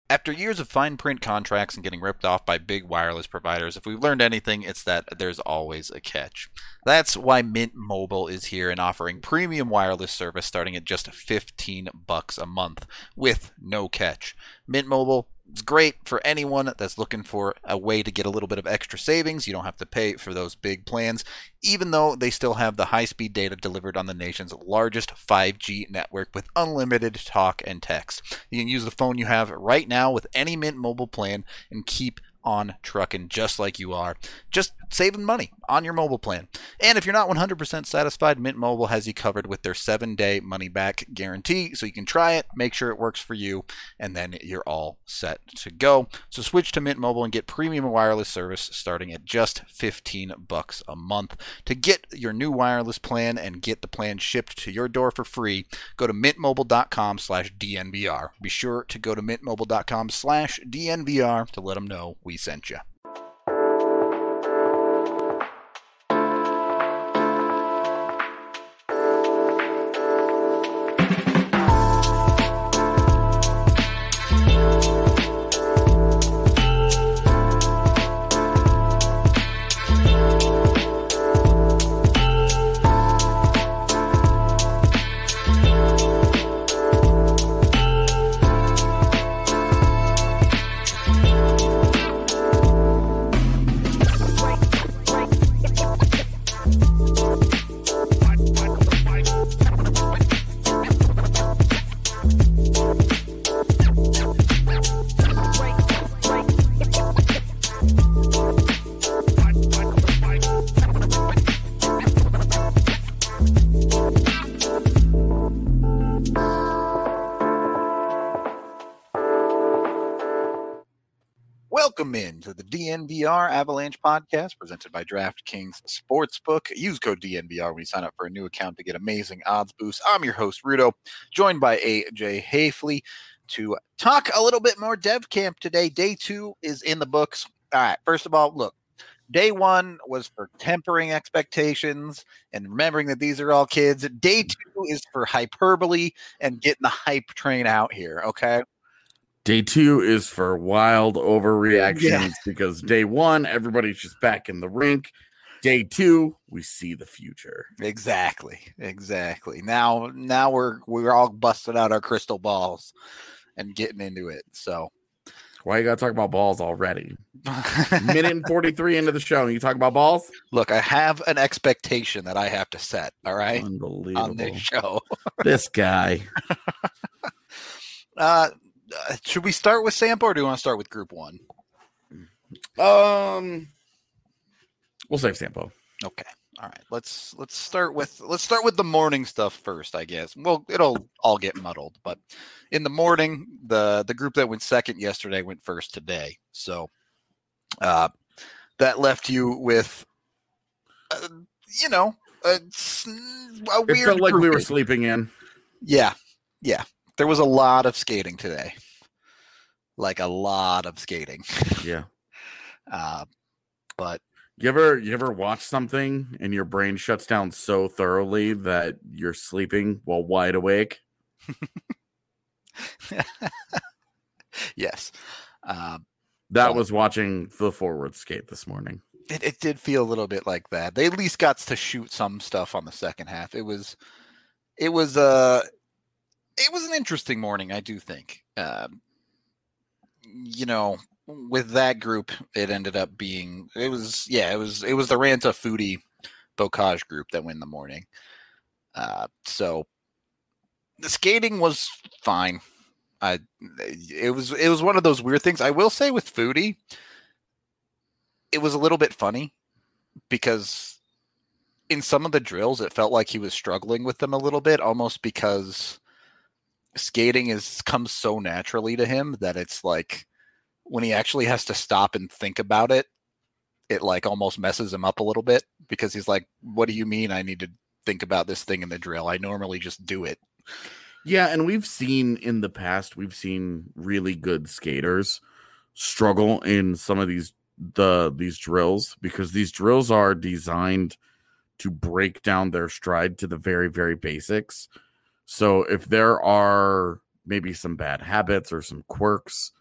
After years of fine print contracts and getting ripped off by big wireless providers, if we've learned anything, it's that there's always a catch. That's why Mint Mobile is here and offering premium wireless service starting at just $15 a month with no catch. Mint Mobile is great for anyone that's looking for a way to get a little bit of extra savings. You don't have to pay for those big plans, even though they still have the high-speed data delivered on the nation's largest 5G network with unlimited talk and text. You can use the phone you have right now with any Mint Mobile plan and keep on trucking just like you are, just saving money on your mobile plan. And if you're not 100% satisfied, Mint Mobile has you covered with their 7-day money-back guarantee, so you can try it, make sure it works for you, and then you're all set to go. So switch to Mint Mobile and get premium wireless service starting at just $15 a month. To get your new wireless plan and get the plan shipped to your door for free, go to mintmobile.com/DNVR. Be sure to go to mintmobile.com/DNVR to let them know we sent you. Welcome into the DNVR Avalanche podcast presented by DraftKings Sportsbook. Use code DNVR when you sign up for a new account to get amazing odds boosts. I'm your host, Rudo, joined by AJ Hafley to talk a little bit more dev camp today. Day 2 is in the books. All right, first of all, look, day 1 was for tempering expectations and remembering that these are all kids. Day 2 is for hyperbole and getting the hype train out here, okay? Day 2 is for wild overreactions because day 1, everybody's just back in the rink. Day 2, we see the future. Exactly. Now we're all busting out our crystal balls and getting into it. So why you gotta talk about balls already? Minute and 43 into the show, and you talk about balls? Look, I have an expectation that I have to set. All right, unbelievable on this show. This guy. Should we start with Sampo or do you want to start with Group 1? We'll save Sampo. Okay. All right. Let's start with the morning stuff first, I guess. Well, it'll all get muddled, but in the morning, the group that went second yesterday went first today. So that left you with a weird It felt like we were sleeping in. Yeah. There was a lot of skating today. Like a lot of skating. Yeah. But you ever watch something and your brain shuts down so thoroughly that you're sleeping while wide awake? Yes. That was watching the forward skate this morning. It did feel a little bit like that. They at least got to shoot some stuff on the second half. It was an interesting morning, I do think. With that group, it ended up being it was the Ranta Foodie Bocage group that won the morning. So the skating was fine. It was one of those weird things. I will say with Foodie, it was a little bit funny because in some of the drills, it felt like he was struggling with them a little bit, almost because skating comes so naturally to him that it's like when he actually has to stop and think about it, it like almost messes him up a little bit because he's like, what do you mean I need to think about this thing in the drill? I normally just do it. Yeah, and we've seen in the past, really good skaters struggle in some of these drills because these drills are designed to break down their stride to the very, very basics. So if there are maybe some bad habits or some quirks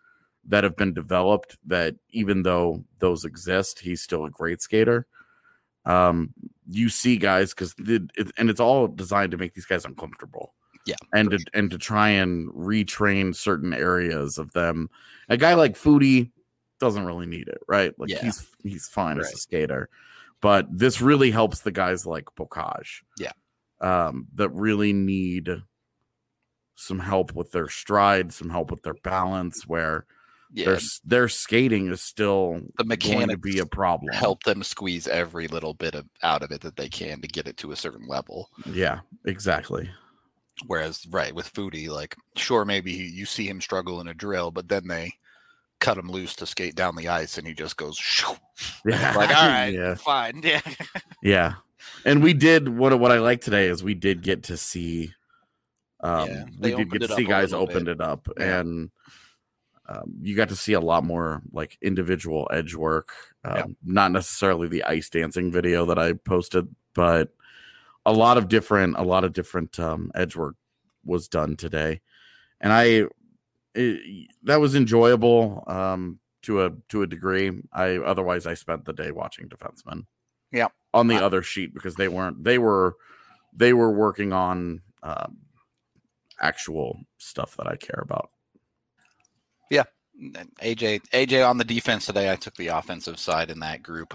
that have been developed that even though those exist, he's still a great skater. You see guys because it's all designed to make these guys uncomfortable. Yeah, and to try and retrain certain areas of them. A guy like Foodie doesn't really need it, right? Like he's fine as a skater, but this really helps the guys like Bocage. Yeah, that really need some help with their stride, some help with their balance, where their skating is still the mechanics going to be a problem. Help them squeeze every little bit out of it that they can to get it to a certain level. Yeah, exactly. Whereas, with Foodie, like, sure, maybe you see him struggle in a drill, but then they cut him loose to skate down the ice, and he just goes, shoo. Yeah. Like, all right, fine, yeah. Yeah. And we did, what I like today is we did get to see, we did get to see guys opened it up, and you got to see a lot more, like, individual edge work, not necessarily the ice dancing video that I posted, but a lot of different edge work was done today, and that was enjoyable to a degree. Otherwise I spent the day watching defensemen on the other sheet because they were working on actual stuff that I care about. Yeah. AJ on the defense today. I took the offensive side in that group.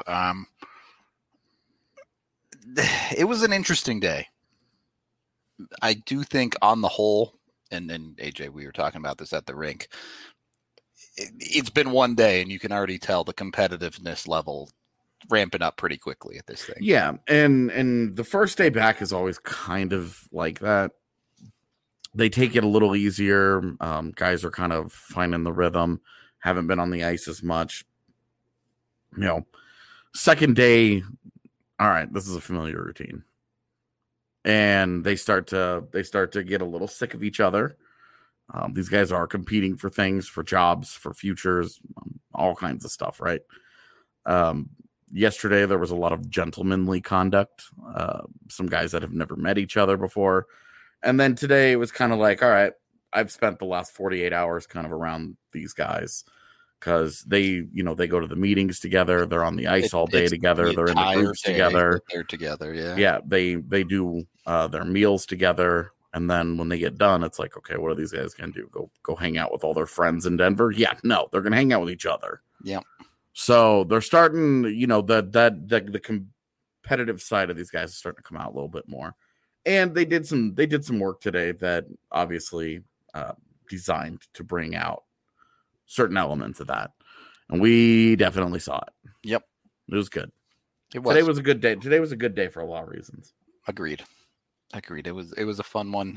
It was an interesting day. I do think on the whole, and AJ, we were talking about this at the rink, it's been one day and you can already tell the competitiveness level ramping up pretty quickly at this thing. Yeah, and the first day back is always kind of like that. They take it a little easier. Guys are kind of finding the rhythm, haven't been on the ice as much. Second day, all right, this is a familiar routine. And they start to get a little sick of each other. These guys are competing for things, for jobs, for futures, all kinds of stuff, right? Yesterday, there was a lot of gentlemanly conduct. Some guys that have never met each other before. And then today, it was kind of like, all right, I've spent the last 48 hours kind of around these guys. Because they go to the meetings together. They're on the ice all day together. They're in the groups together. They're together, yeah. Yeah, they do their meals together. And then when they get done, it's like, okay, what are these guys going to do? Go hang out with all their friends in Denver? Yeah, no, they're going to hang out with each other. Yeah. So they're starting, the competitive side of these guys is starting to come out a little bit more. And they did some work today that obviously designed to bring out certain elements of that, and we definitely saw it. Yep, it was good. Today was a good day. Today was a good day for a lot of reasons. Agreed. It was a fun one.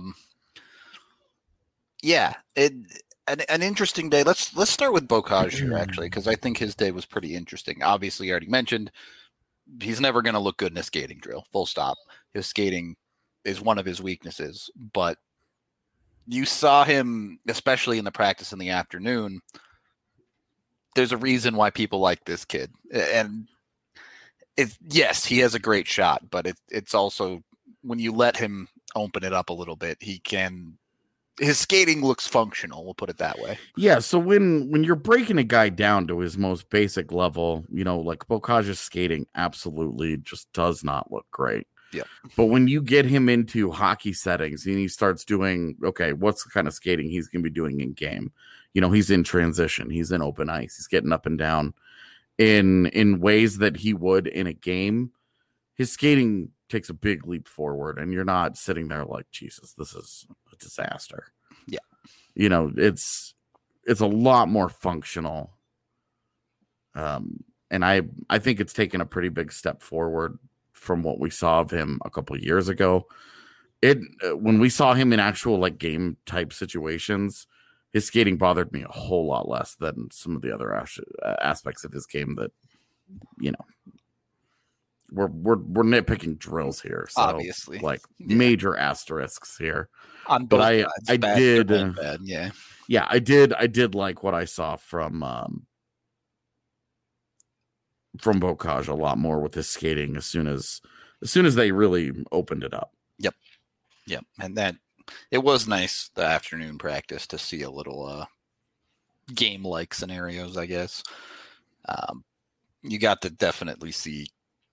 An interesting day. Let's start with Bocage here, actually, because I think his day was pretty interesting. Obviously, I already mentioned he's never going to look good in a skating drill. Full stop. His skating is one of his weaknesses, but you saw him, especially in the practice in the afternoon. There's a reason why people like this kid. And yes, he has a great shot, but it's also when you let him open it up a little bit, his skating looks functional. We'll put it that way. Yeah. So when you're breaking a guy down to his most basic level, like Bocage's skating absolutely just does not look great. Yeah. But when you get him into hockey settings and he starts doing, okay, what's the kind of skating he's going to be doing in game? He's in transition. He's in open ice. He's getting up and down in ways that he would in a game. His skating takes a big leap forward, and you're not sitting there like, Jesus, this is a disaster. Yeah. It's a lot more functional. And I think it's taken a pretty big step forward from what we saw of him a couple of years ago. When we saw him in actual like game type situations, his skating bothered me a whole lot less than some of the other aspects of his game that, we're nitpicking drills here. So obviously, major asterisks here. On both sides, I did, bad, yeah. Yeah, I did like what I saw from Bocage a lot more with his skating as soon as they really opened it up. Yep. And that it was nice the afternoon practice to see a little game-like scenarios, I guess. You got to definitely see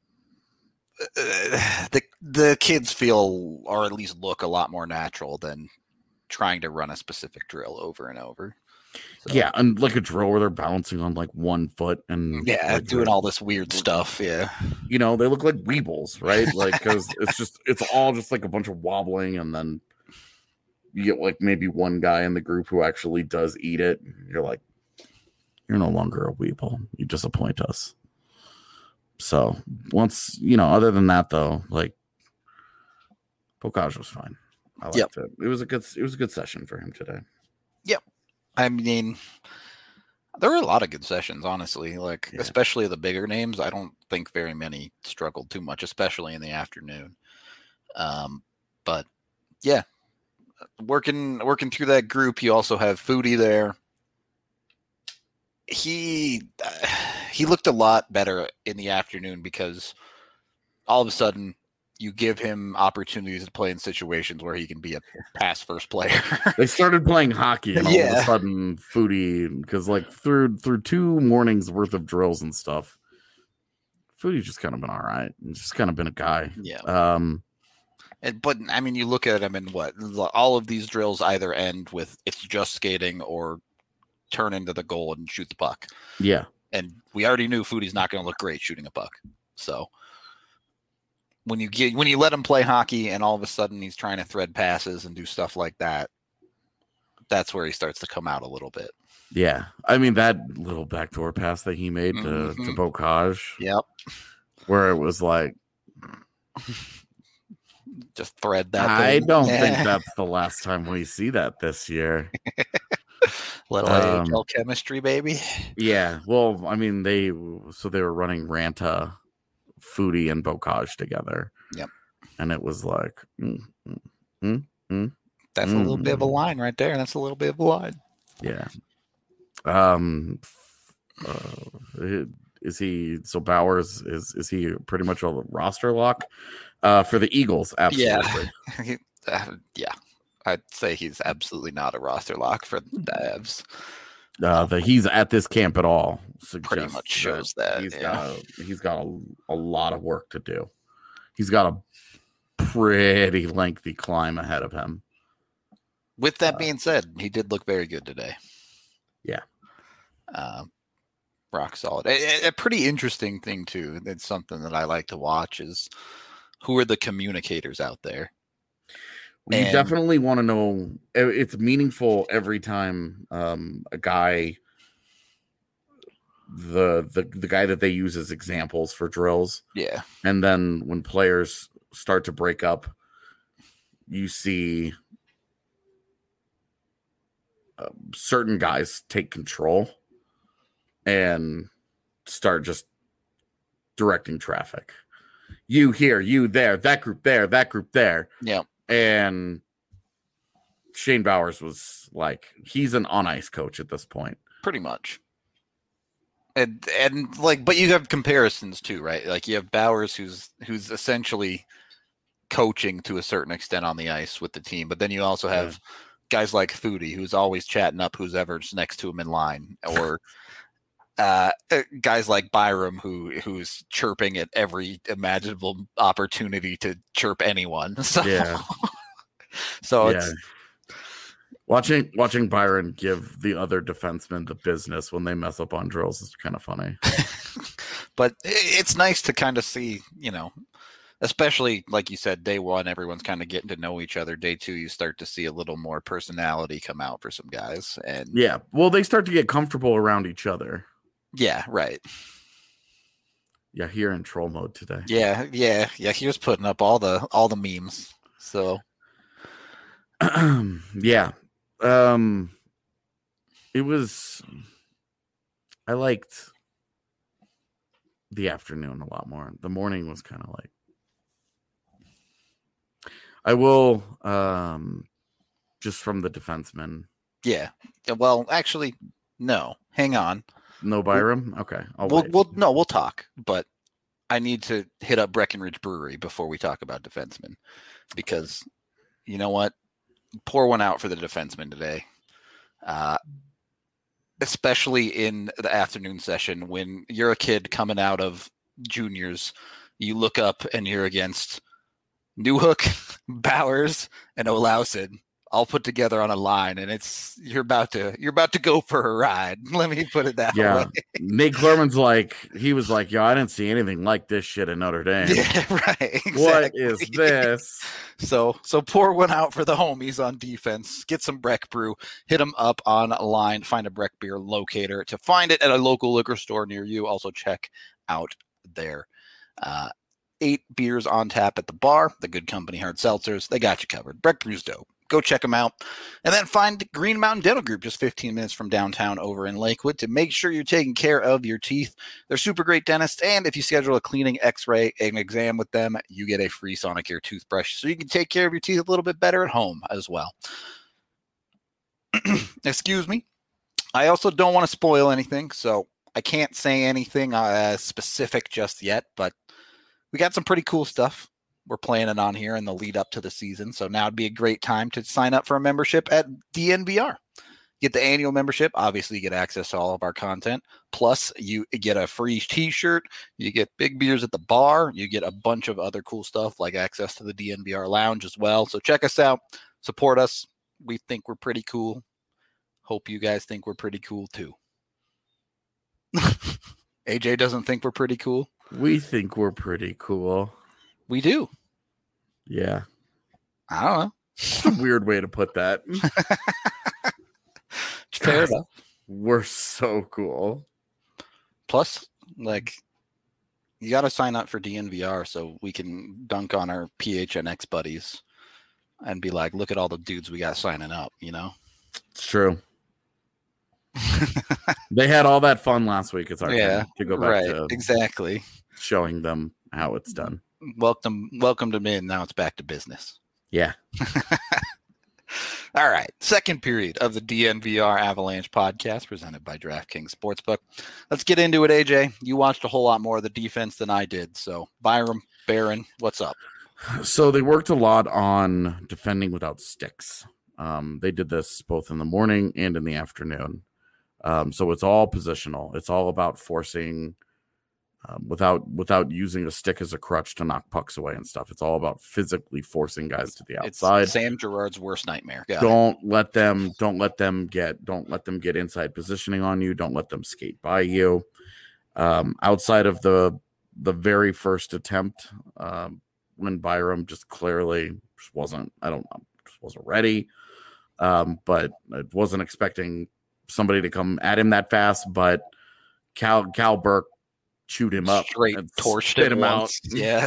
the kids feel, or at least look, a lot more natural than trying to run a specific drill over and over. So, yeah, and like a drill where they're balancing on like 1 foot and like doing all this weird stuff. Yeah, they look like weebles, right? Like because it's all just like a bunch of wobbling, and then you get like maybe one guy in the group who actually does eat it. You're like, you're no longer a weeble. You disappoint us. So once other than that though, like Bocage was fine. I liked it. It was a good session for him today. Yep. I mean, there were a lot of good sessions, honestly. Like, especially the bigger names. I don't think very many struggled too much, especially in the afternoon. But yeah, working through that group. You also have Foodie there. He looked a lot better in the afternoon because all of a sudden you give him opportunities to play in situations where he can be a pass first player. They started playing hockey, and all of a sudden Foodie, because like through 2 mornings worth of drills and stuff, Foodie's just kind of been all right. He's just kind of been a guy. Yeah. But I mean, you look at him and all of these drills either end with it's just skating or turn into the goal and shoot the puck. Yeah. And we already knew Foodie's not going to look great shooting a puck. So when you let him play hockey and all of a sudden he's trying to thread passes and do stuff like that, that's where he starts to come out a little bit. Yeah. I mean, that little backdoor pass that he made to Bocage. Yep. Where it was like, just thread that. I don't think that's the last time we see that this year. Little AHL chemistry, baby. Yeah. Well, I mean, they were running Ranta, Foodie, and Bocage together. Yep. And it was like, that's a little bit of a line right there. That's a little bit of a line. Yeah. Is he Bowers is he pretty much a roster lock for the Eagles? Absolutely. Yeah. I'd say he's absolutely not a roster lock for the Avs. That he's at this camp at all pretty much shows that he's got a lot of work to do. He's got a pretty lengthy climb ahead of him. With that being said, he did look very good today. Yeah. Rock solid. A pretty interesting thing too. It's something that I like to watch is who are the communicators out there. Well, you definitely want to know. It's meaningful every time a guy, the guy that they use as examples for drills. Yeah. And then when players start to break up, you see certain guys take control and start just directing traffic. You here, you there, that group there, that group there. Yeah. And Shane Bowers was like, he's an on ice coach at this point. Pretty much. And like, but you have comparisons too, right? Like you have Bowers who's essentially coaching to a certain extent on the ice with the team, but then you also have guys like Foodie who's always chatting up who's ever's next to him in line, or guys like Byram who's chirping at every imaginable opportunity to chirp anyone. So, it's watching Byron give the other defensemen the business when they mess up on drills is kind of funny. But it's nice to kind of see, especially like you said, day one, everyone's kind of getting to know each other. Day two, you start to see a little more personality come out for some guys. And well, they start to get comfortable around each other. Yeah, right. Yeah, here in troll mode today. Yeah. He was putting up all the memes. So, it was. I liked the afternoon a lot more. The morning was kind of like. I will, just from the defenseman. Yeah. Well, actually, no. Hang on. No Byram? Okay. We'll talk, but I need to hit up Breckenridge Brewery before we talk about defensemen, because you know what? Pour one out for the defenseman today. especially in the afternoon session when you're a kid coming out of juniors, you look up and you're against Newhook, Bowers, and Olausen all put together on a line, and you're about to go for a ride. Let me put it that way. Nate Clerman's he was like, yo, I didn't see anything like this shit in Notre Dame. Yeah, right. Exactly. What is this? So pour one out for the homies on defense. Get some Breck Brew. Hit them up online. Find a Breck beer locator. To find it at a local liquor store near you, also check out their 8 beers on tap at the bar. The Good Company hard seltzers. They got you covered. Breck Brew's dope. Go check them out. And then find Green Mountain Dental Group just 15 minutes from downtown over in Lakewood to make sure you're taking care of your teeth. They're super great dentists, and if you schedule a cleaning, x-ray, and exam with them, you get a free Sonicare toothbrush so you can take care of your teeth a little bit better at home as well. Excuse me. I also don't want to spoil anything, so I can't say anything specific just yet, but we got some pretty cool stuff we're planning on here in the lead up to the season. So now would be a great time to sign up for a membership at DNVR. Get the annual membership. Obviously, you get access to all of our content. Plus, you get a free t-shirt. You get big beers at the bar. You get a bunch of other cool stuff like access to the DNVR lounge as well. So check us out. Support us. We think we're pretty cool. Hope you guys think we're pretty cool too. AJ doesn't think we're pretty cool. We think we're pretty cool. We do. Yeah. I don't know. It's a weird way to put that. Fair enough. We're so cool. Plus, you got to sign up for DNVR so we can dunk on our PHNX buddies and be like, look at all the dudes we got signing up, you know? It's true. They had all that fun last week. It's our time to go back to exactly showing them how it's done. Welcome them in. Now it's back to business. Yeah. All right. Second period of the DNVR Avalanche podcast presented by DraftKings Sportsbook. Let's get into it, AJ. You watched a whole lot more of the defense than I did. So Byram, Barron, what's up? So they worked a lot on defending without sticks. They did this both in the morning and in the afternoon. So it's all positional. It's all about forcing without using a stick as a crutch to knock pucks away and stuff. It's all about physically forcing guys to the outside. It's Sam Girard's worst nightmare. Don't let them get inside positioning on you. Don't let them skate by you. Outside of the very first attempt, when Byram just clearly wasn't ready. But I wasn't expecting somebody to come at him that fast, but Cal Burke chewed him up, straight torched him out. Yeah.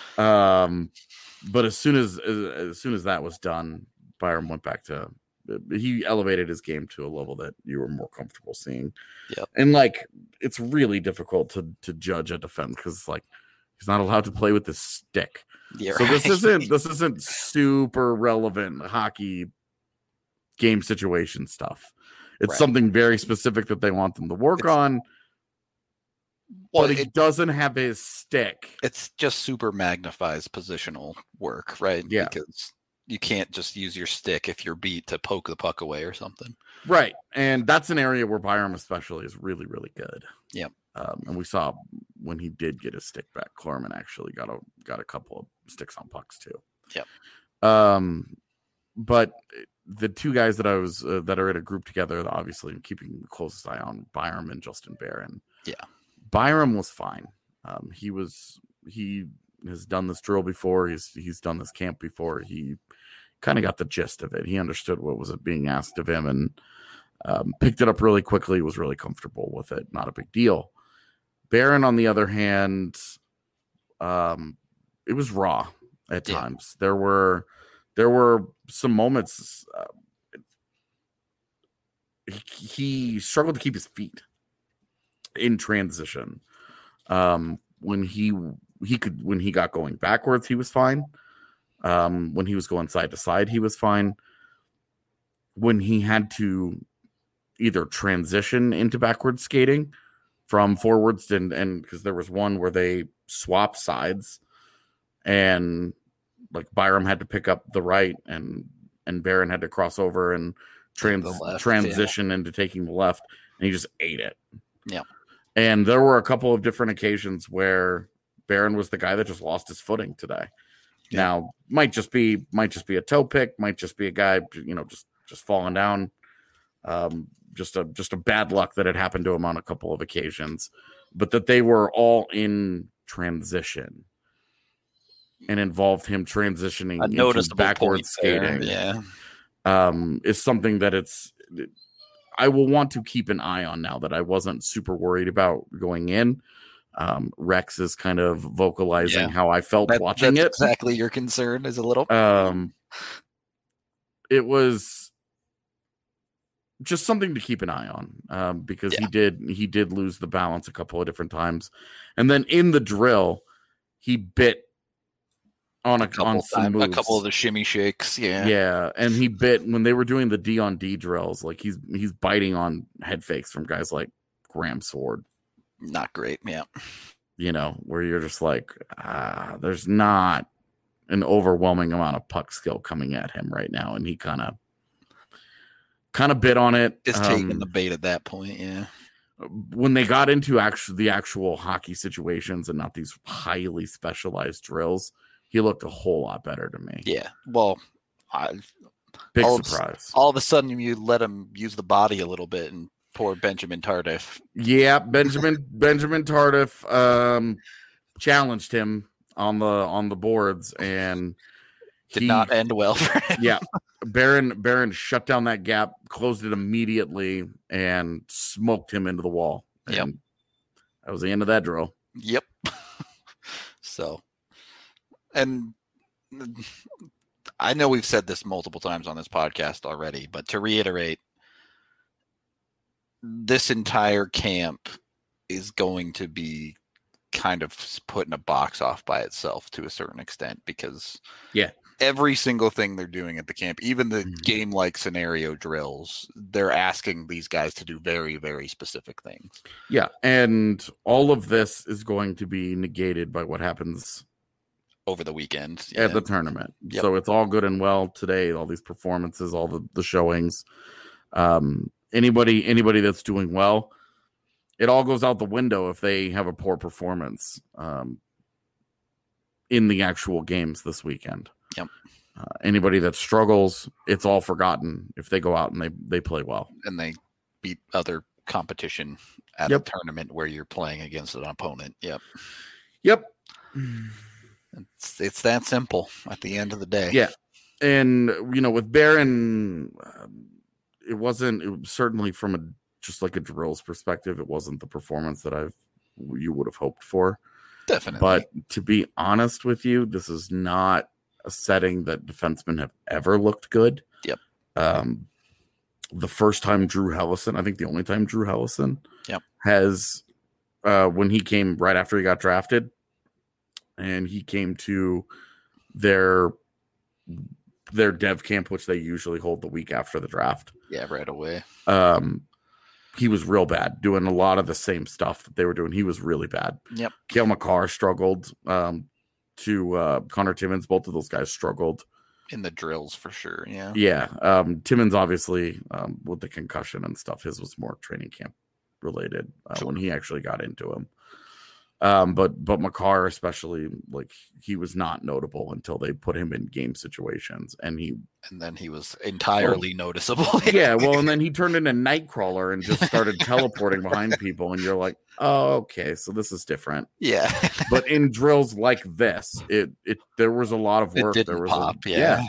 But as soon as that was done, Byram went back to he elevated his game to a level that you were more comfortable seeing. Yeah. And it's really difficult to judge a defense because he's not allowed to play with this stick. Yeah, so this isn't super relevant hockey game situation stuff. It's something very specific that they want them to work on. Well, but he doesn't have his stick. It's just super magnifies positional work, right? Yeah. Because you can't just use your stick if you're beat to poke the puck away or something. Right. And that's an area where Byram especially is really, really good. Yeah. And we saw when he did get his stick back, Klarman actually got a couple of sticks on pucks too. Yeah. But the two guys that are in a group together, obviously keeping the closest eye on Byram and Justin Barron. Yeah. Byram was fine. He has done this drill before. He's done this camp before. He kind of got the gist of it. He understood what was being asked of him and picked it up really quickly. Was really comfortable with it. Not a big deal. Barron, on the other hand, it was raw at times. There were some moments he struggled to keep his feet in transition. When he got going backwards, he was fine. When he was going side to side, he was fine. When he had to either transition into backwards skating from forwards and because there was one where they swapped sides and Byram had to pick up the right and Barron had to cross over and transition into taking the left. and he just ate it. Yeah. And there were a couple of different occasions where Barron was the guy that just lost his footing today. Yeah. Now, might just be a toe pick, might just be a guy, just falling down. Just a bad luck that had happened to him on a couple of occasions, but that they were all in transition and involved him transitioning into backward skating. Yeah. Is something that I will want to keep an eye on now that I wasn't super worried about going in. Rex is kind of vocalizing how I felt watching it. Exactly your concern is a little. It was just something to keep an eye on because he did lose the balance a couple of different times, and then in the drill he bit on a couple of the shimmy shakes. Yeah, and he bit when they were doing the D on D drills. Like he's biting on head fakes from guys like Graham Sword. Not great. Yeah, where you're just like, there's not an overwhelming amount of puck skill coming at him right now, and he kind of bit on it. Just taking the bait at that point. Yeah. When they got into the actual hockey situations and not these highly specialized drills, he looked a whole lot better to me. Yeah. Well, big surprise. All of a sudden, you let him use the body a little bit, and poor Benjamin Tardif. Yeah, Benjamin Tardif challenged him on the boards and did not end well for him. Yeah. Barron shut down that gap, closed it immediately, and smoked him into the wall. Yep. And that was the end of that drill. Yep. So, and I know we've said this multiple times on this podcast already, but to reiterate, this entire camp is going to be kind of put in a box off by itself to a certain extent because every single thing they're doing at the camp, even the game-like scenario drills, they're asking these guys to do very, very specific things. Yeah, and all of this is going to be negated by what happens over the weekend at the tournament. Yep. So it's all good and well today, all these performances, all the showings. Anybody that's doing well, it all goes out the window if they have a poor performance in the actual games this weekend. Yep. Anybody that struggles, it's all forgotten if they go out and they play well. And they beat other competition at a tournament where you're playing against an opponent. Yep. Yep. It's that simple at the end of the day. Yeah. And, with Barron, it was certainly from just like a drills perspective, it wasn't the performance that you would have hoped for. Definitely. But to be honest with you, this is not a setting that defensemen have ever looked good. Yep. The first time Drew Hellison, I think the only time Drew Hellison has, when he came right after he got drafted, and he came to their dev camp, which they usually hold the week after the draft. Yeah, right away. He was real bad, doing a lot of the same stuff that they were doing. He was really bad. Yep. Cale Makar struggled. To Connor Timmins, both of those guys struggled in the drills for sure. Yeah. Yeah. Timmins obviously with the concussion and stuff, his was more training camp related when he actually got into him. But Makar especially, like, he was not notable until they put him in game situations, and then he was entirely noticeable. Yeah, well, and then he turned into Nightcrawler and just started teleporting behind people, and you're like, oh, okay, so this is different. Yeah. But in drills like this, there was a lot of work. It didn't there was pop.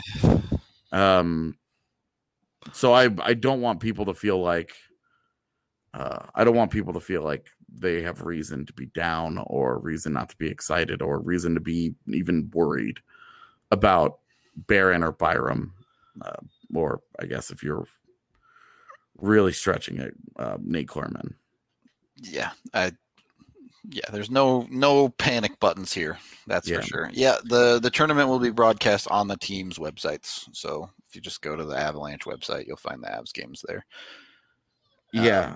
So I don't want people to feel like they have reason to be down or reason not to be excited or reason to be even worried about Barron or Byram, or I guess if you're really stretching it, Nate Clerman. Yeah, there's no panic buttons here. That's for sure. Yeah, the tournament will be broadcast on the team's websites. So if you just go to the Avalanche website, you'll find the Avs games there. Yeah.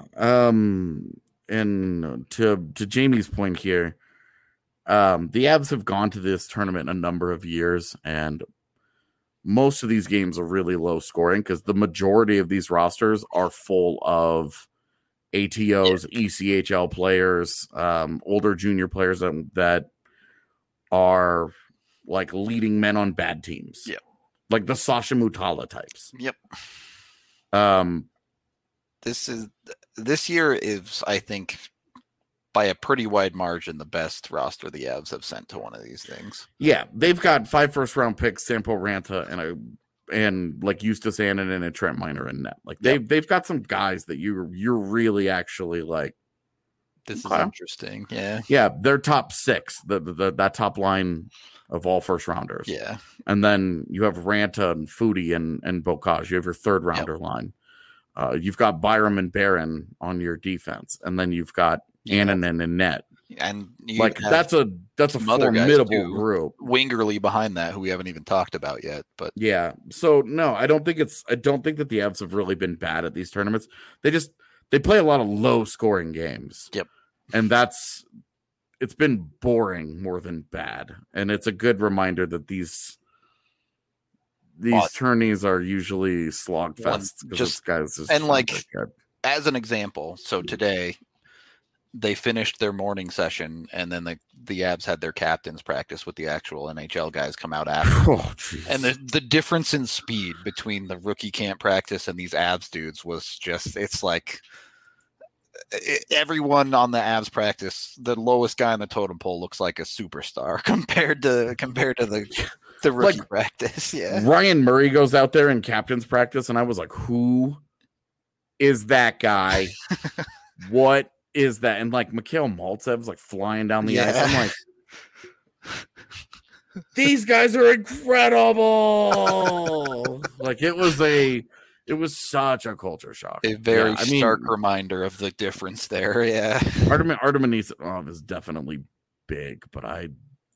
And to Jamie's point here, the Avs have gone to this tournament a number of years, and most of these games are really low scoring because the majority of these rosters are full of ATOs, ECHL players, older junior players that are like leading men on bad teams. Yep. Like the Sasha Mutala types. Yep. This year is, I think, by a pretty wide margin, the best roster the Avs have sent to one of these things. Yeah, they've got 5 first-round picks, Sampo Ranta, and like Eustace Annan and Trent Miner in net. Like they've got some guys that you're really actually like. This is interesting. Yeah. Yeah, they're top 6. That top line of all first rounders. Yeah. And then you have Ranta and Foodie and Bocage. You have your third rounder line. You've got Byram and Barron on your defense, and then you've got Annan and net. And like that's a formidable group. Wingerly behind that, who we haven't even talked about yet. But yeah, so no, I don't think that the Avs have really been bad at these tournaments. They play a lot of low scoring games. Yep, and it's been boring more than bad, and it's a good reminder that these tourneys are usually slog fests. Just guys, and like as an example, so today they finished their morning session, and then the Avs had their captains practice with the actual NHL guys come out after. And the difference in speed between the rookie camp practice and these Avs dudes was just, it's like everyone on the Avs practice, the lowest guy on the totem pole looks like a superstar compared to the rookie practice. Yeah. Ryan Murray goes out there in captain's practice, and I was like, who is that guy? What is that? And like Mikhail Maltsev's like flying down the ice. I'm like, these guys are incredible. Like it was such a culture shock. A very stark reminder of the difference there. Yeah. Artem Anisov is definitely big, but I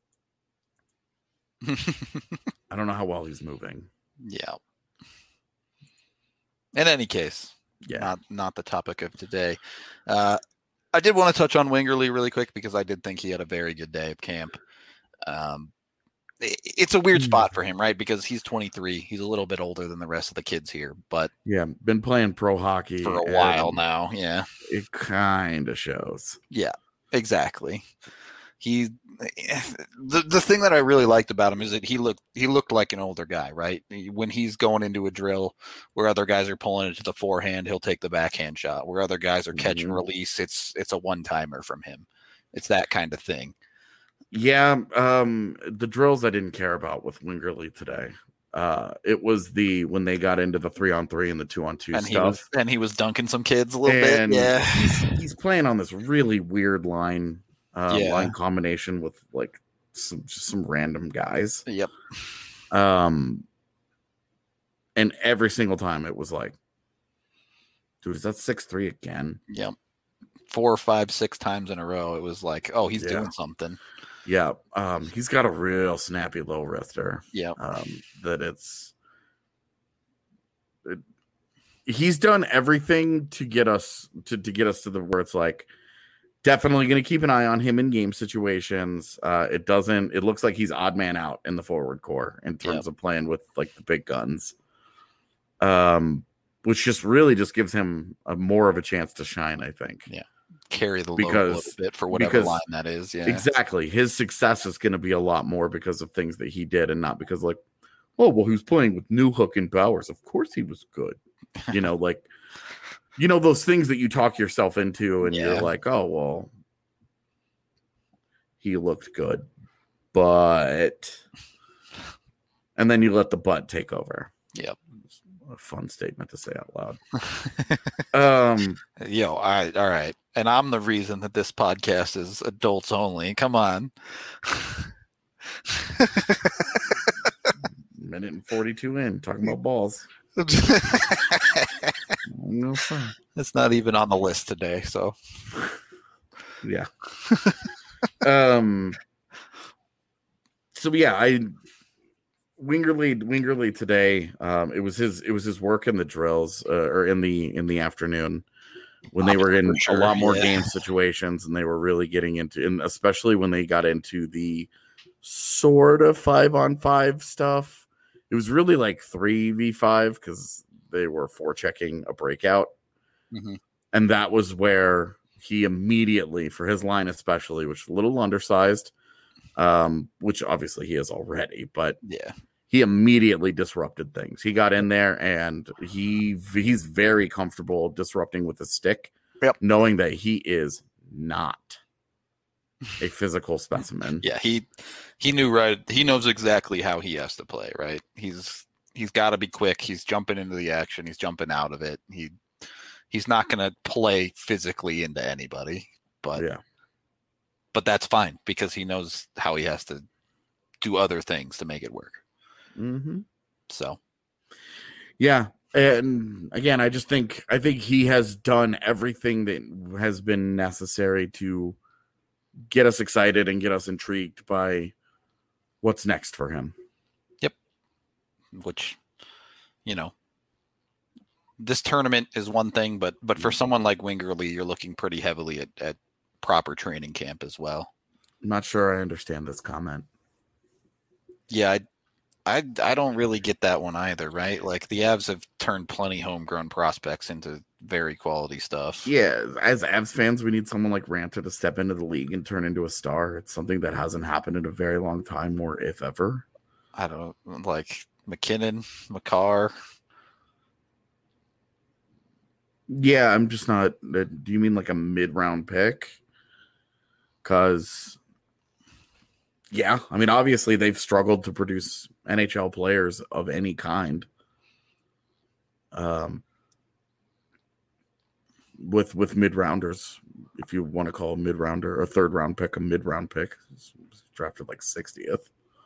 don't know how well he's moving. Yeah. In any case, yeah, not the topic of today. I did want to touch on Wingerly really quick because I did think he had a very good day of camp. It's a weird spot for him, right? Because he's 23. He's a little bit older than the rest of the kids here, but yeah, been playing pro hockey for a while now. Yeah, it kind of shows. Yeah, exactly. The thing that I really liked about him is that he looked like an older guy, right? When he's going into a drill where other guys are pulling it to the forehand, he'll take the backhand shot. Where other guys are catch and release, it's a one-timer from him. It's that kind of thing. Yeah, the drills I didn't care about with Wingerly today. It was when they got into the 3-on-3 and the 2-on-2 stuff. He was dunking some kids a little bit. Yeah, he's playing on this really weird line combination with like some random guys. Yep. And every single time it was like, dude, is that 6-3 again? Yep. 4, 5, 6 times in a row. It was like, oh, he's doing something. Yeah. He's got a real snappy low wrister. Yeah. He's done everything to get us to the where it's like, definitely going to keep an eye on him in game situations. It looks like he's odd man out in the forward core in terms of playing with like the big guns. Which just gives him more of a chance to shine, I think. Yeah. Carry the load a little bit for whatever line that is. Yeah. Exactly. His success is going to be a lot more because of things that he did and not because like, oh, well, he was playing with Newhook and Bowers. Of course he was good. Like, those things that you talk yourself into and you're like, oh, well, he looked good, but, and then you let the butt take over. Yep. A fun statement to say out loud. All right. And I'm the reason that this podcast is adults only. Come on. Minute and 42 in, talking about balls. No fun. It's not even on the list today, so yeah. So yeah, Wingerly today. It was his work in the drills or in the afternoon when they were in a lot more game situations and they were really getting into, and especially when they got into the sort of 5-on-5 stuff. It was really like 3v5 because they were forechecking a breakout. Mm-hmm. And that was where he immediately, for his line especially, which is a little undersized, which obviously he is already, but Yeah. he immediately disrupted things. He got in there and he's very comfortable disrupting with a stick, knowing that he is not a physical specimen. Yeah, he knew right. He knows exactly how he has to play, right? He's got to be quick. He's jumping into the action. He's jumping out of it. He's not going to play physically into anybody, but that's fine because he knows how he has to do other things to make it work. Mm-hmm. So, yeah. And again, I think he has done everything that has been necessary to get us excited and get us intrigued by what's next for him. Yep. Which, this tournament is one thing, but for someone like Wingerly, you're looking pretty heavily at proper training camp as well. I'm not sure I understand this comment. Yeah, I don't really get that one either, right? Like the Avs have turned plenty homegrown prospects into very quality stuff. Yeah, as Avs fans, we need someone like Ranta to step into the league and turn into a star. It's something that hasn't happened in a very long time, or if ever. I don't like McKinnon, Makar. Yeah, I'm just not. Do you mean like a mid-round pick? Because, yeah, I mean, obviously they've struggled to produce NHL players of any kind. With mid-rounders, if you want to call a mid-rounder or third-round pick a mid-round pick, it's drafted like 60th.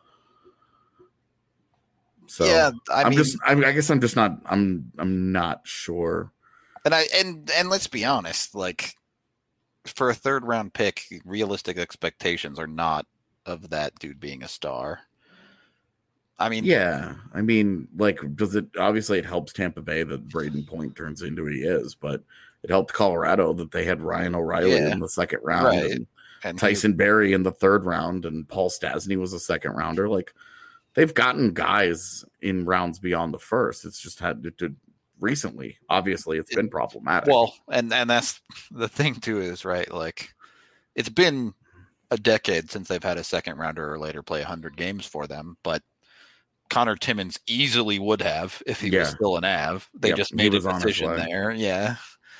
So yeah, I guess I'm not sure. And let's be honest, like for a third round pick, realistic expectations are not of that dude being a star. I mean, yeah, I mean, like, obviously it helps Tampa Bay that Braden Point turns into who he is, but it helped Colorado that they had Ryan O'Reilly in the second round, right, and Tyson Barrie in the third round, and Paul Stastny was a second rounder. Like, they've gotten guys in rounds beyond the first. It's just had to recently. Obviously, it's been problematic. Well, and that's the thing too is, right, like it's been a decade since they've had a second rounder or later play 100 games for them, but Connor Timmins easily would have if he was still an Av. They just made a decision there. Yeah.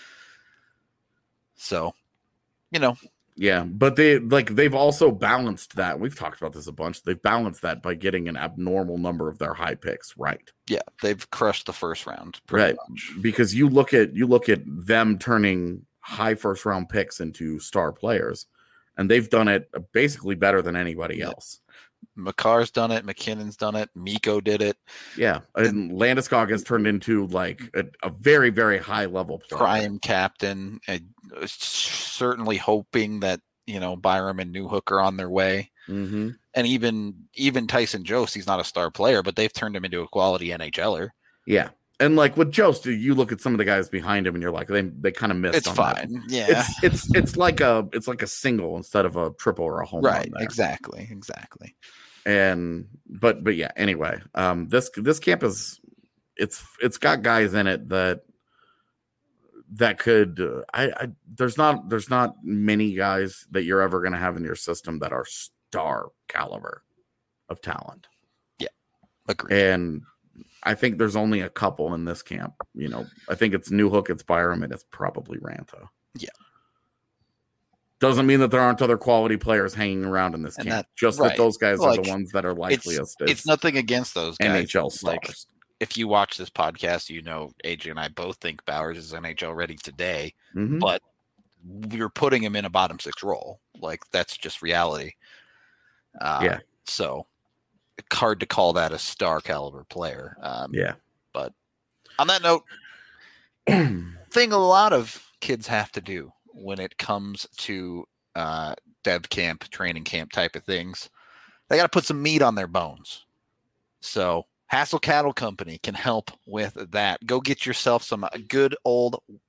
So, yeah, but they've also balanced that. We've talked about this a bunch. They've balanced that by getting an abnormal number of their high picks right. Yeah, they've crushed the first round pretty much. Because you look at them turning high first round picks into star players, and they've done it basically better than anybody else. Makar's done it. McKinnon's done it. Mikko did it. Yeah, and Landeskog has turned into like a very, very high level player. Prime captain. Certainly hoping that Byram and Newhook are on their way. Mm-hmm. And even Tyson Jost, he's not a star player, but they've turned him into a quality NHLer. Yeah. And like with Jost, you look at some of the guys behind him and you're like, they kind of missed. It's on fine. That. Yeah. It's like a single instead of a triple or a home run. Right. Exactly. And but yeah, anyway, this camp is it's got guys in it that could there's not many guys that you're ever going to have in your system that are star caliber of talent. Yeah. Agreed. And I think there's only a couple in this camp. I think it's Newhook, it's Byram, and it's probably Ranta. Yeah. Doesn't mean that there aren't other quality players hanging around in this camp. That those guys are the ones that are likeliest. It's nothing against those guys. NHL stars. Like, if you watch this podcast, AJ and I both think Bowers is NHL ready today, but we're putting him in a bottom six role. Like, that's just reality. Yeah. So hard to call that a star caliber player. Yeah. But on that note, thing a lot of kids have to do when it comes to dev camp, training camp type of things, they got to put some meat on their bones. So Hassel Cattle Company can help with that. Go get yourself some good old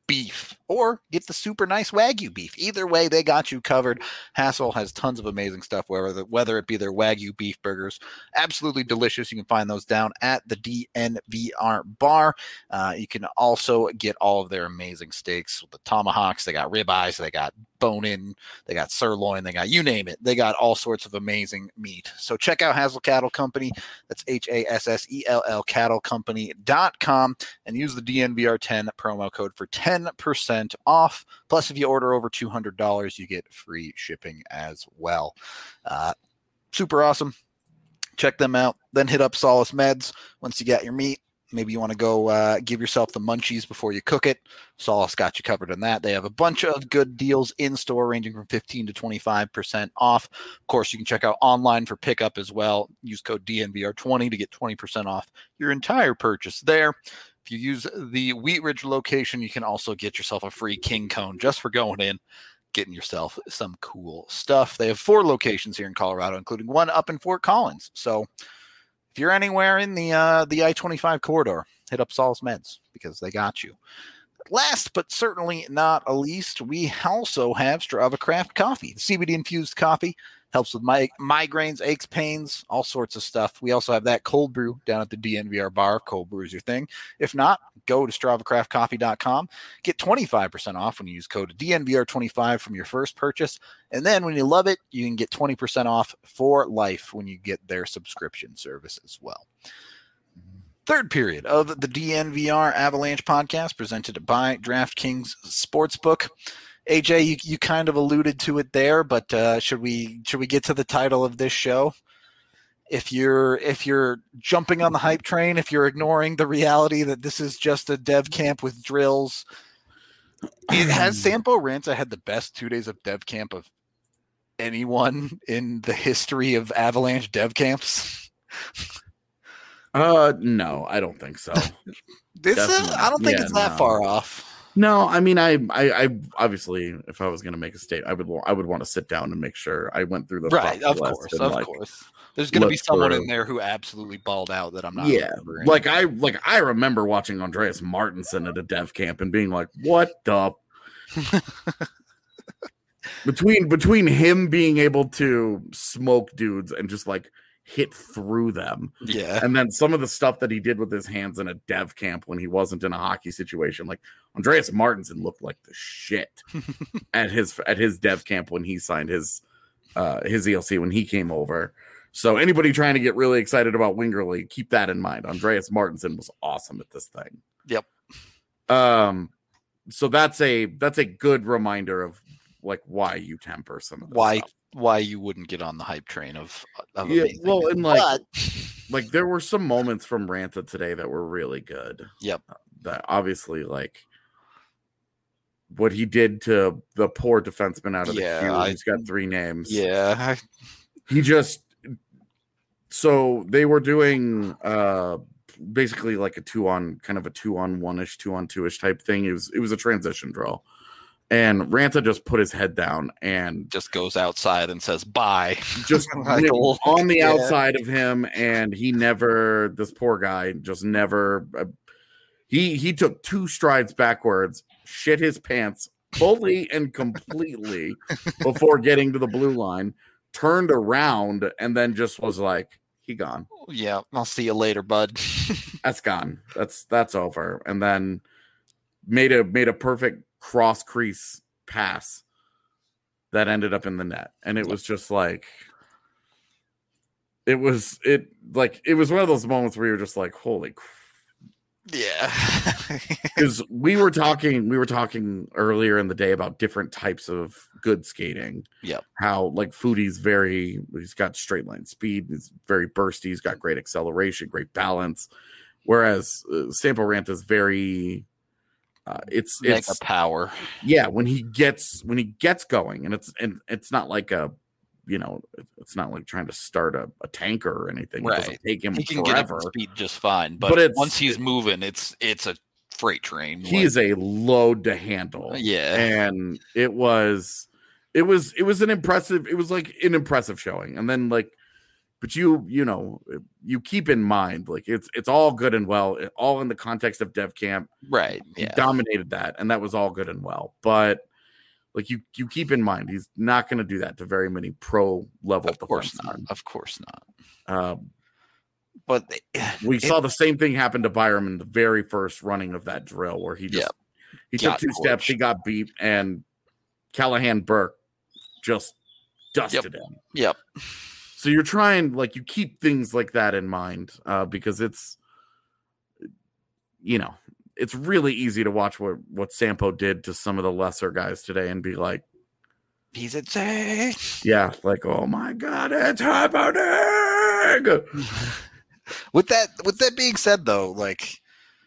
beef, or get the super nice Wagyu beef. Either way, they got you covered. Hassel has tons of amazing stuff, whether it be their Wagyu beef burgers, absolutely delicious. You can find those down at the DNVR bar. You can also get all of their amazing steaks, the tomahawks. They got ribeyes, they got bone-in, they got sirloin, they got you name it. They got all sorts of amazing meat. So check out Hassel Cattle Company. That's HASSELL cattlecompany.com and use the DNVR10 promo code for 10% off. Plus, if you order over $200, you get free shipping as well. Super awesome. Check them out. Then hit up Solace Meds once you got your meat. Maybe you want to go give yourself the munchies before you cook it. Solace got you covered on that. They have a bunch of good deals in store ranging from 15 to 25% off. Of course, you can check out online for pickup as well. Use code DNVR20 to get 20% off your entire purchase there. If you use the Wheat Ridge location, you can also get yourself a free King Cone just for going in, getting yourself some cool stuff. They have 4 locations here in Colorado, including one up in Fort Collins. So if you're anywhere in the I-25 corridor, hit up Solace Meds because they got you. Last but certainly not least, we also have Strava Craft Coffee. The CBD-infused coffee helps with migraines, aches, pains, all sorts of stuff. We also have that cold brew down at the DNVR bar. Cold brew is your thing. If not, go to StravaCraftCoffee.com. Get 25% off when you use code DNVR25 from your first purchase. And then when you love it, you can get 20% off for life when you get their subscription service as well. Third period of the DNVR Avalanche podcast presented by DraftKings Sportsbook. AJ, you kind of alluded to it there, but should we get to the title of this show? If you're jumping on the hype train, if you're ignoring the reality that this is just a dev camp with drills, it has Sampo Ranta had the best 2 days of dev camp of anyone in the history of Avalanche dev camps. No, I don't think so. I don't think it's that far off. No, I mean, I obviously, if I was going to make a statement, I would want to sit down and make sure I went through the right. Of course. There's going to be someone in there who absolutely balled out that I'm not. Yeah, I remember watching Andreas Martinson at a dev camp and being like, "What the." between him being able to smoke dudes and just like hit through them. Yeah. And then some of the stuff that he did with his hands in a dev camp when he wasn't in a hockey situation. Like Andreas Martinson looked like the shit at his dev camp when he signed his ELC when he came over. So anybody trying to get really excited about Wingerly, keep that in mind. Andreas Martinson was awesome at this thing. Yep. So that's a good reminder of like why you temper some of this stuff. Why you wouldn't get on the hype train of yeah, well, and like there were some moments from Ranta today that were really good. Yep. That obviously like what he did to the poor defenseman out of the queue. He's got 3 names. Yeah. He just so they were doing basically like a 2-on-1ish, 2-on-2ish type thing. It was a transition drill. And Ranta just put his head down and just goes outside and says bye. Just on the outside of him, and this poor guy just never. He took 2 strides backwards, shit his pants fully and completely before getting to the blue line, turned around, and then just was like, "He gone." Yeah, I'll see you later, bud. That's gone. That's over. And then made a perfect cross crease pass that ended up in the net, and it was just like it was one of those moments where you're just like, holy yeah. Because we were talking earlier in the day about different types of good skating. Yeah, how like Foodie's he's got straight line speed, he's very bursty, he's got great acceleration, great balance, whereas Sampo Ranta is very it's mega power. Yeah, when he gets going, and it's not like it's not like trying to start a tanker or anything. Right. It doesn't take him he can forever. Get speed just fine, but once he's moving, it's a freight train. He is a load to handle. Yeah, and it was an impressive showing, and then like But you keep in mind, like it's all good and well, all in the context of dev camp. Right. He Yeah. dominated that, and that was all good and well. But like you keep in mind, he's not going to do that to very many pro level. Of course not. Of course not. But we saw the same thing happen to Byram in the very first running of that drill, where he took 2 steps, he got beat, and Callahan Burke just dusted him. Yep. So you're trying, like, you keep things like that in mind, because it's really easy to watch what Sampo did to some of the lesser guys today and be like, he's insane. Yeah, like, oh my God, it's happening. With that being said, though, like,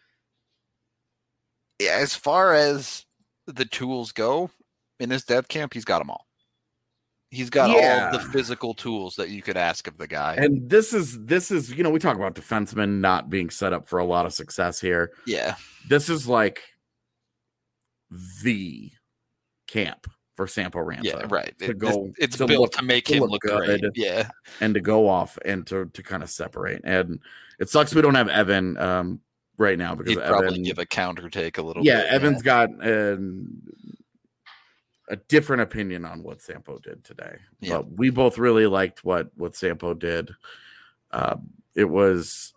as far as the tools go in this dev camp, he's got them all. He's got all the physical tools that you could ask of the guy. And this is we talk about defensemen not being set up for a lot of success here. Yeah. This is like the camp for Sampo Ranta. Yeah, right. It's built to make him look good. Yeah. And to go off and to kind of separate. And it sucks we don't have Evan right now, because he'd probably give a counter take a little bit. Yeah, Evan's got a different opinion on what Sampo did today. Yeah. But we both really liked what Sampo did. It was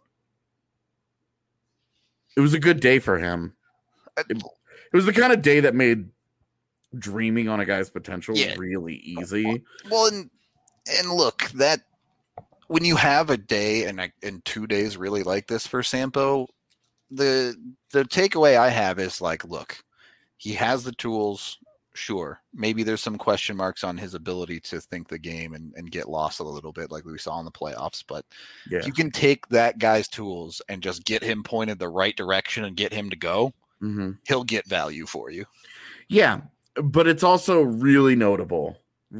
a good day for him. It was the kind of day that made dreaming on a guy's potential really easy. Well, and look, that when you have a day and 2 days really like this for Sampo, the takeaway I have is like, look, he has the tools. Sure, maybe there's some question marks on his ability to think the game and get lost a little bit like we saw in the playoffs. But if you can take that guy's tools and just get him pointed the right direction and get him to go, he'll get value for you. Yeah, but it's also really notable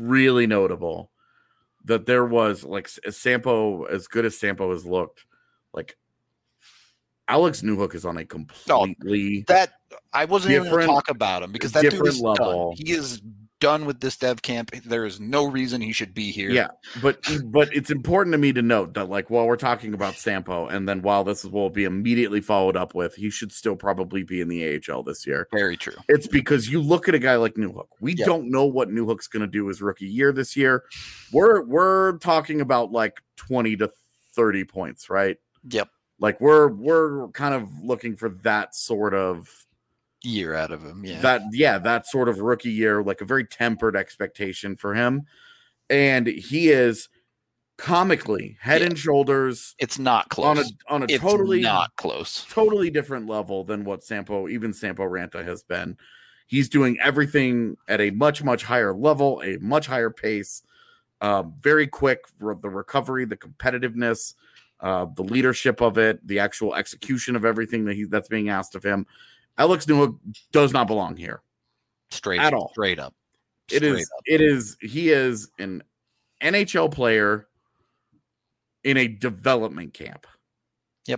that there was, like, Sampo, as good as Sampo has looked, like, Alex Newhook is on a completely I wasn't even going to talk about him, because that dude is level. Done. He is done with this dev camp. There is no reason he should be here. Yeah, but it's important to me to note that, like, while we're talking about Sampo, and then while this will be immediately followed up with, he should still probably be in the AHL this year. Very true. It's because you look at a guy like Newhook. We don't know what Newhook's going to do his rookie year this year. We're talking about like 20 to 30 points, right? Yep. Like we're kind of looking for that sort of year out of him. That sort of rookie year, like a very tempered expectation for him. And he is comically head and shoulders. It's not close. On a totally not close. Totally different level than what Sampo Ranta has been. He's doing everything at a much, much higher level, a much higher pace, very quick, the recovery, the competitiveness, the leadership of it, the actual execution of everything that's being asked of him. Alex Newhook does not belong here. Straight up. He is an NHL player in a development camp. Yep.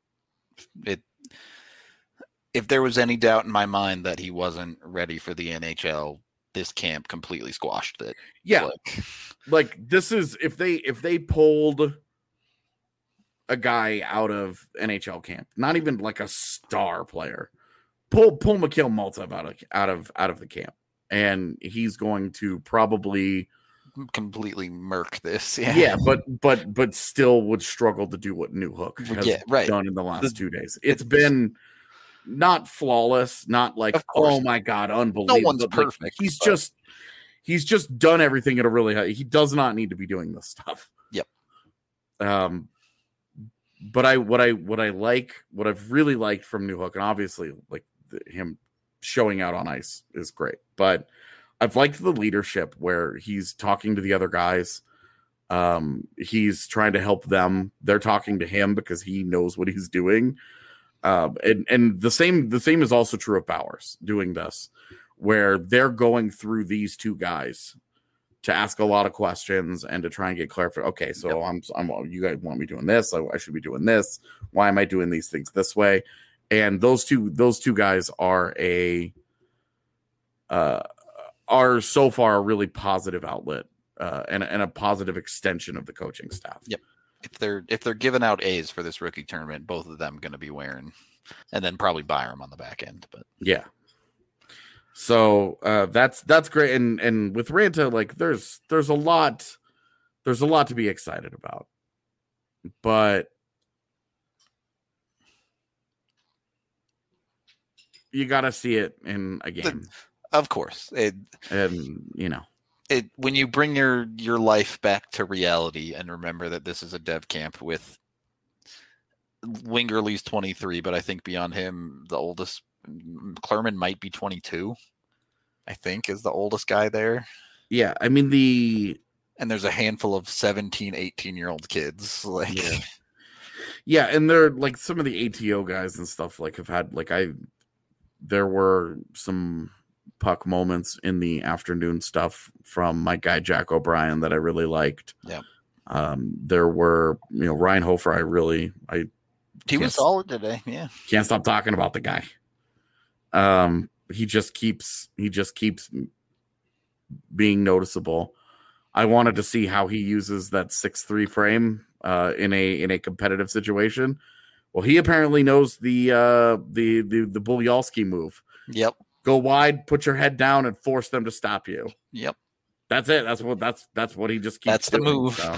If there was any doubt in my mind that he wasn't ready for the NHL, this camp completely squashed it. Yeah. Like this is, if they pulled a guy out of NHL camp, not even like a star player, pull Mikhail Maltsev out of the camp, and he's going to probably completely murk this. But still would struggle to do what Newhook has done in the last 2 days. It's been not flawless, not like, oh my God, unbelievable. No one's perfect. He's just done everything at a really high. He does not need to be doing this stuff. Yep. But what I've really liked from Newhook, and obviously like him showing out on ice is great, but I've liked the leadership where he's talking to the other guys. He's trying to help them. They're talking to him because he knows what he's doing. And the same is also true of Bowers doing this, where they're going through these two guys to ask a lot of questions and to try and get clarification. Okay, so I'm you guys want me doing this? I should be doing this. Why am I doing these things this way? And those two guys are so far a really positive outlet and a positive extension of the coaching staff. Yep. if they're giving out A's for this rookie tournament, both of them going to be wearing, and then probably Byram on the back end. But yeah. So that's great, and with Ranta, like there's a lot to be excited about, but you got to see it in a game. Of course, and when you bring your life back to reality and remember that this is a dev camp with Wingerly's 23, but I think beyond him, the oldest Clerman might be 22. I think is the oldest guy there. Yeah, I mean and there's a handful of 17, 18-year-old kids. Like, yeah, and they're like some of the ATO guys and stuff. Like have had there were some puck moments in the afternoon stuff from my guy Jack O'Brien that I really liked. Yeah. There were Ryan Hofer. He was solid today. Yeah, can't stop talking about the guy. He just keeps being noticeable. I wanted to see how he uses that 6'3" frame in a competitive situation. Well, he apparently knows the Bulyalski move. Yep. Go wide, put your head down, and force them to stop you. Yep. That's it. That's what he just keeps. That's doing, the move. So.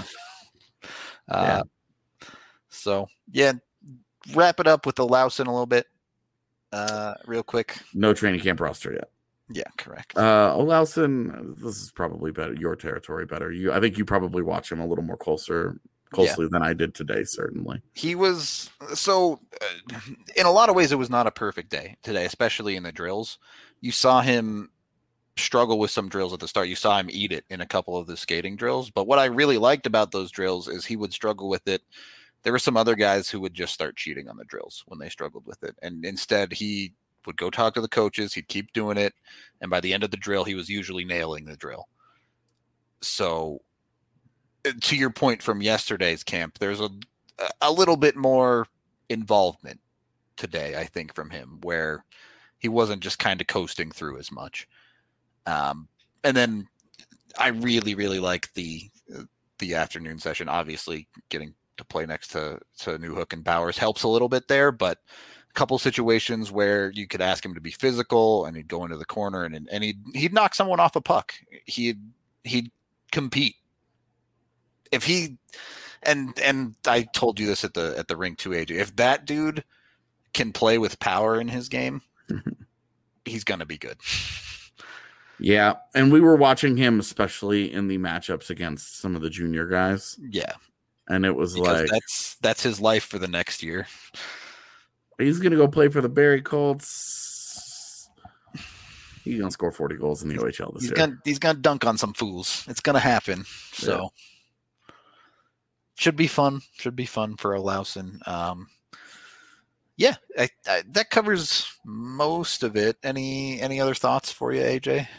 So wrap it up with the Lawson a little bit, real quick. No training camp roster yet. Yeah, correct. Olausen, this is probably better. Your territory better. I think you probably watch him a little more closely than I did today. Certainly, he was in a lot of ways, it was not a perfect day today, especially in the drills. You saw him struggle with some drills at the start. You saw him eat it in a couple of the skating drills. But what I really liked about those drills is he would struggle with it. There were some other guys who would just start cheating on the drills when they struggled with it, and instead he would go talk to the coaches. He'd keep doing it, and by the end of the drill, he was usually nailing the drill. So, to your point from yesterday's camp, there's a little bit more involvement today, I think, from him, where he wasn't just kind of coasting through as much. And then I really, really like the afternoon session. Obviously, getting to play next to Newhook and Bowers helps a little bit there, but a couple situations where you could ask him to be physical and he'd go into the corner and he'd knock someone off a puck. He'd compete. If he and I told you this at the rink too, AJ. If that dude can play with power in his game, he's gonna be good. Yeah, and we were watching him especially in the matchups against some of the junior guys. Yeah. And it was because like that's his life for the next year. He's gonna go play for the Barrie Colts. He's gonna score 40 goals in the OHL this year. He's gonna dunk on some fools. It's gonna happen. So should be fun. Should be fun for Olausen. Yeah, that covers most of it. Any other thoughts for you, AJ?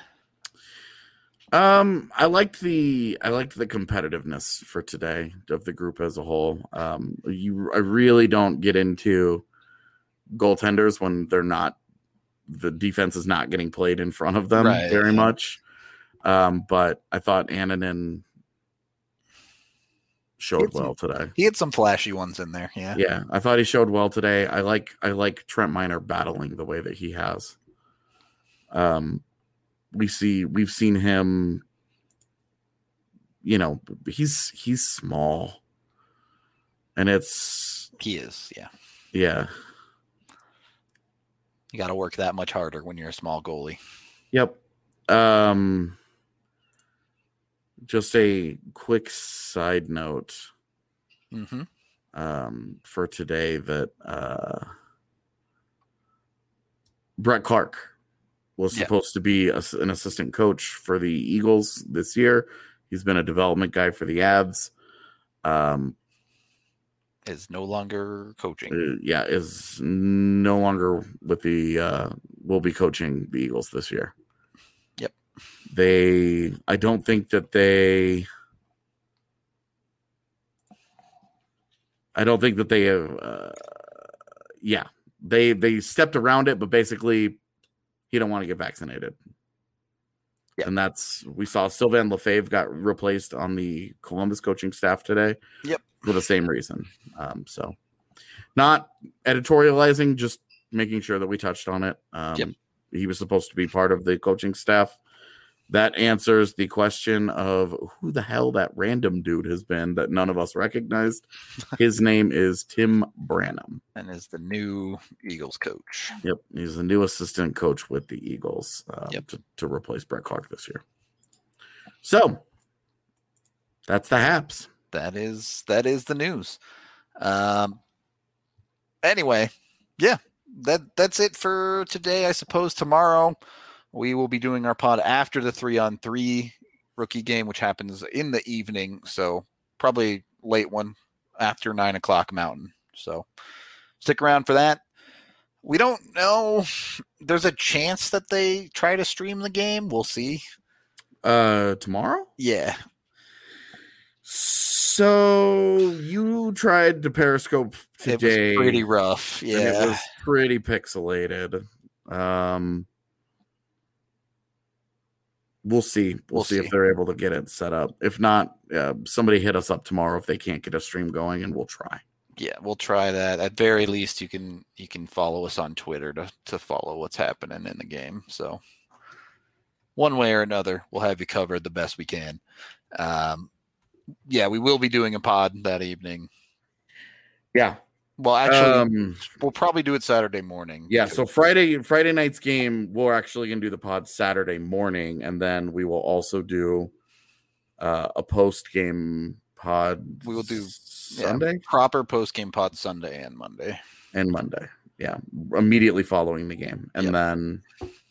I liked the competitiveness for today of the group as a whole. I really don't get into goaltenders when the defense is not getting played in front of them very much. But I thought Annunen showed well today. He had some flashy ones in there. Yeah. Yeah. I thought he showed well today. I like Trent Miner battling the way that he has. We've seen him, he's small and he is. Yeah. Yeah. You got to work that much harder when you're a small goalie. Yep. Just a quick side note for today that Brett Clark was supposed to be an assistant coach for the Eagles this year. He's been a development guy for the Avs. Is no longer coaching. Is no longer with will be coaching the Eagles this year. Yep. I don't think that they have, they stepped around it, but basically he don't want to get vaccinated. Yep. And we saw Sylvain Lefebvre got replaced on the Columbus coaching staff today. Yep. for the same reason. So not editorializing, just making sure that we touched on it. Yep. He was supposed to be part of the coaching staff. That answers the question of who the hell that random dude has been that none of us recognized. His name is Tim Branham. And is the new Eagles coach. Yep. He's the new assistant coach with the Eagles to replace Brett Clark this year. So that's the Haps. That is the news. Anyway, yeah, that's it for today. I suppose tomorrow we will be doing our pod after the 3-on-3 rookie game, which happens in the evening. So probably late one after 9:00 Mountain. So stick around for that. We don't know. There's a chance that they try to stream the game. We'll see. Tomorrow? Yeah. So you tried to Periscope today. It was pretty rough. Yeah. And it was pretty pixelated. We'll see. We'll see if they're able to get it set up. If not, somebody hit us up tomorrow if they can't get a stream going, and we'll try. Yeah, we'll try that. At very least, you can follow us on Twitter to follow what's happening in the game. So one way or another, we'll have you covered the best we can. Yeah, we will be doing a pod that evening. Yeah. Well, actually, we'll probably do it Saturday morning. Yeah, so Friday night's game, we're actually going to do the pod Saturday morning, and then we will also do a post-game pod. We will do Sunday? Proper post-game pod Sunday and Monday. Yeah, immediately following the game. And then,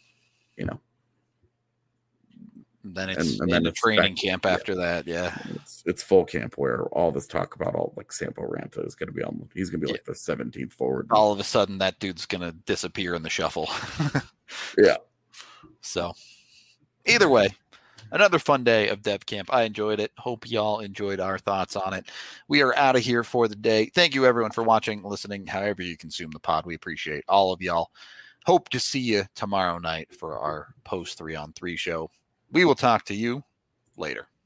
then it's and then the training camp after that. Yeah, it's full camp where all this talk about all like Sampo Ranta is going to be on. He's going to be like the 17th forward. All of a sudden, that dude's going to disappear in the shuffle. Yeah. So, either way, another fun day of Dev Camp. I enjoyed it. Hope y'all enjoyed our thoughts on it. We are out of here for the day. Thank you everyone for watching, listening, however you consume the pod. We appreciate all of y'all. Hope to see you tomorrow night for our post 3-on-3 show. We will talk to you later.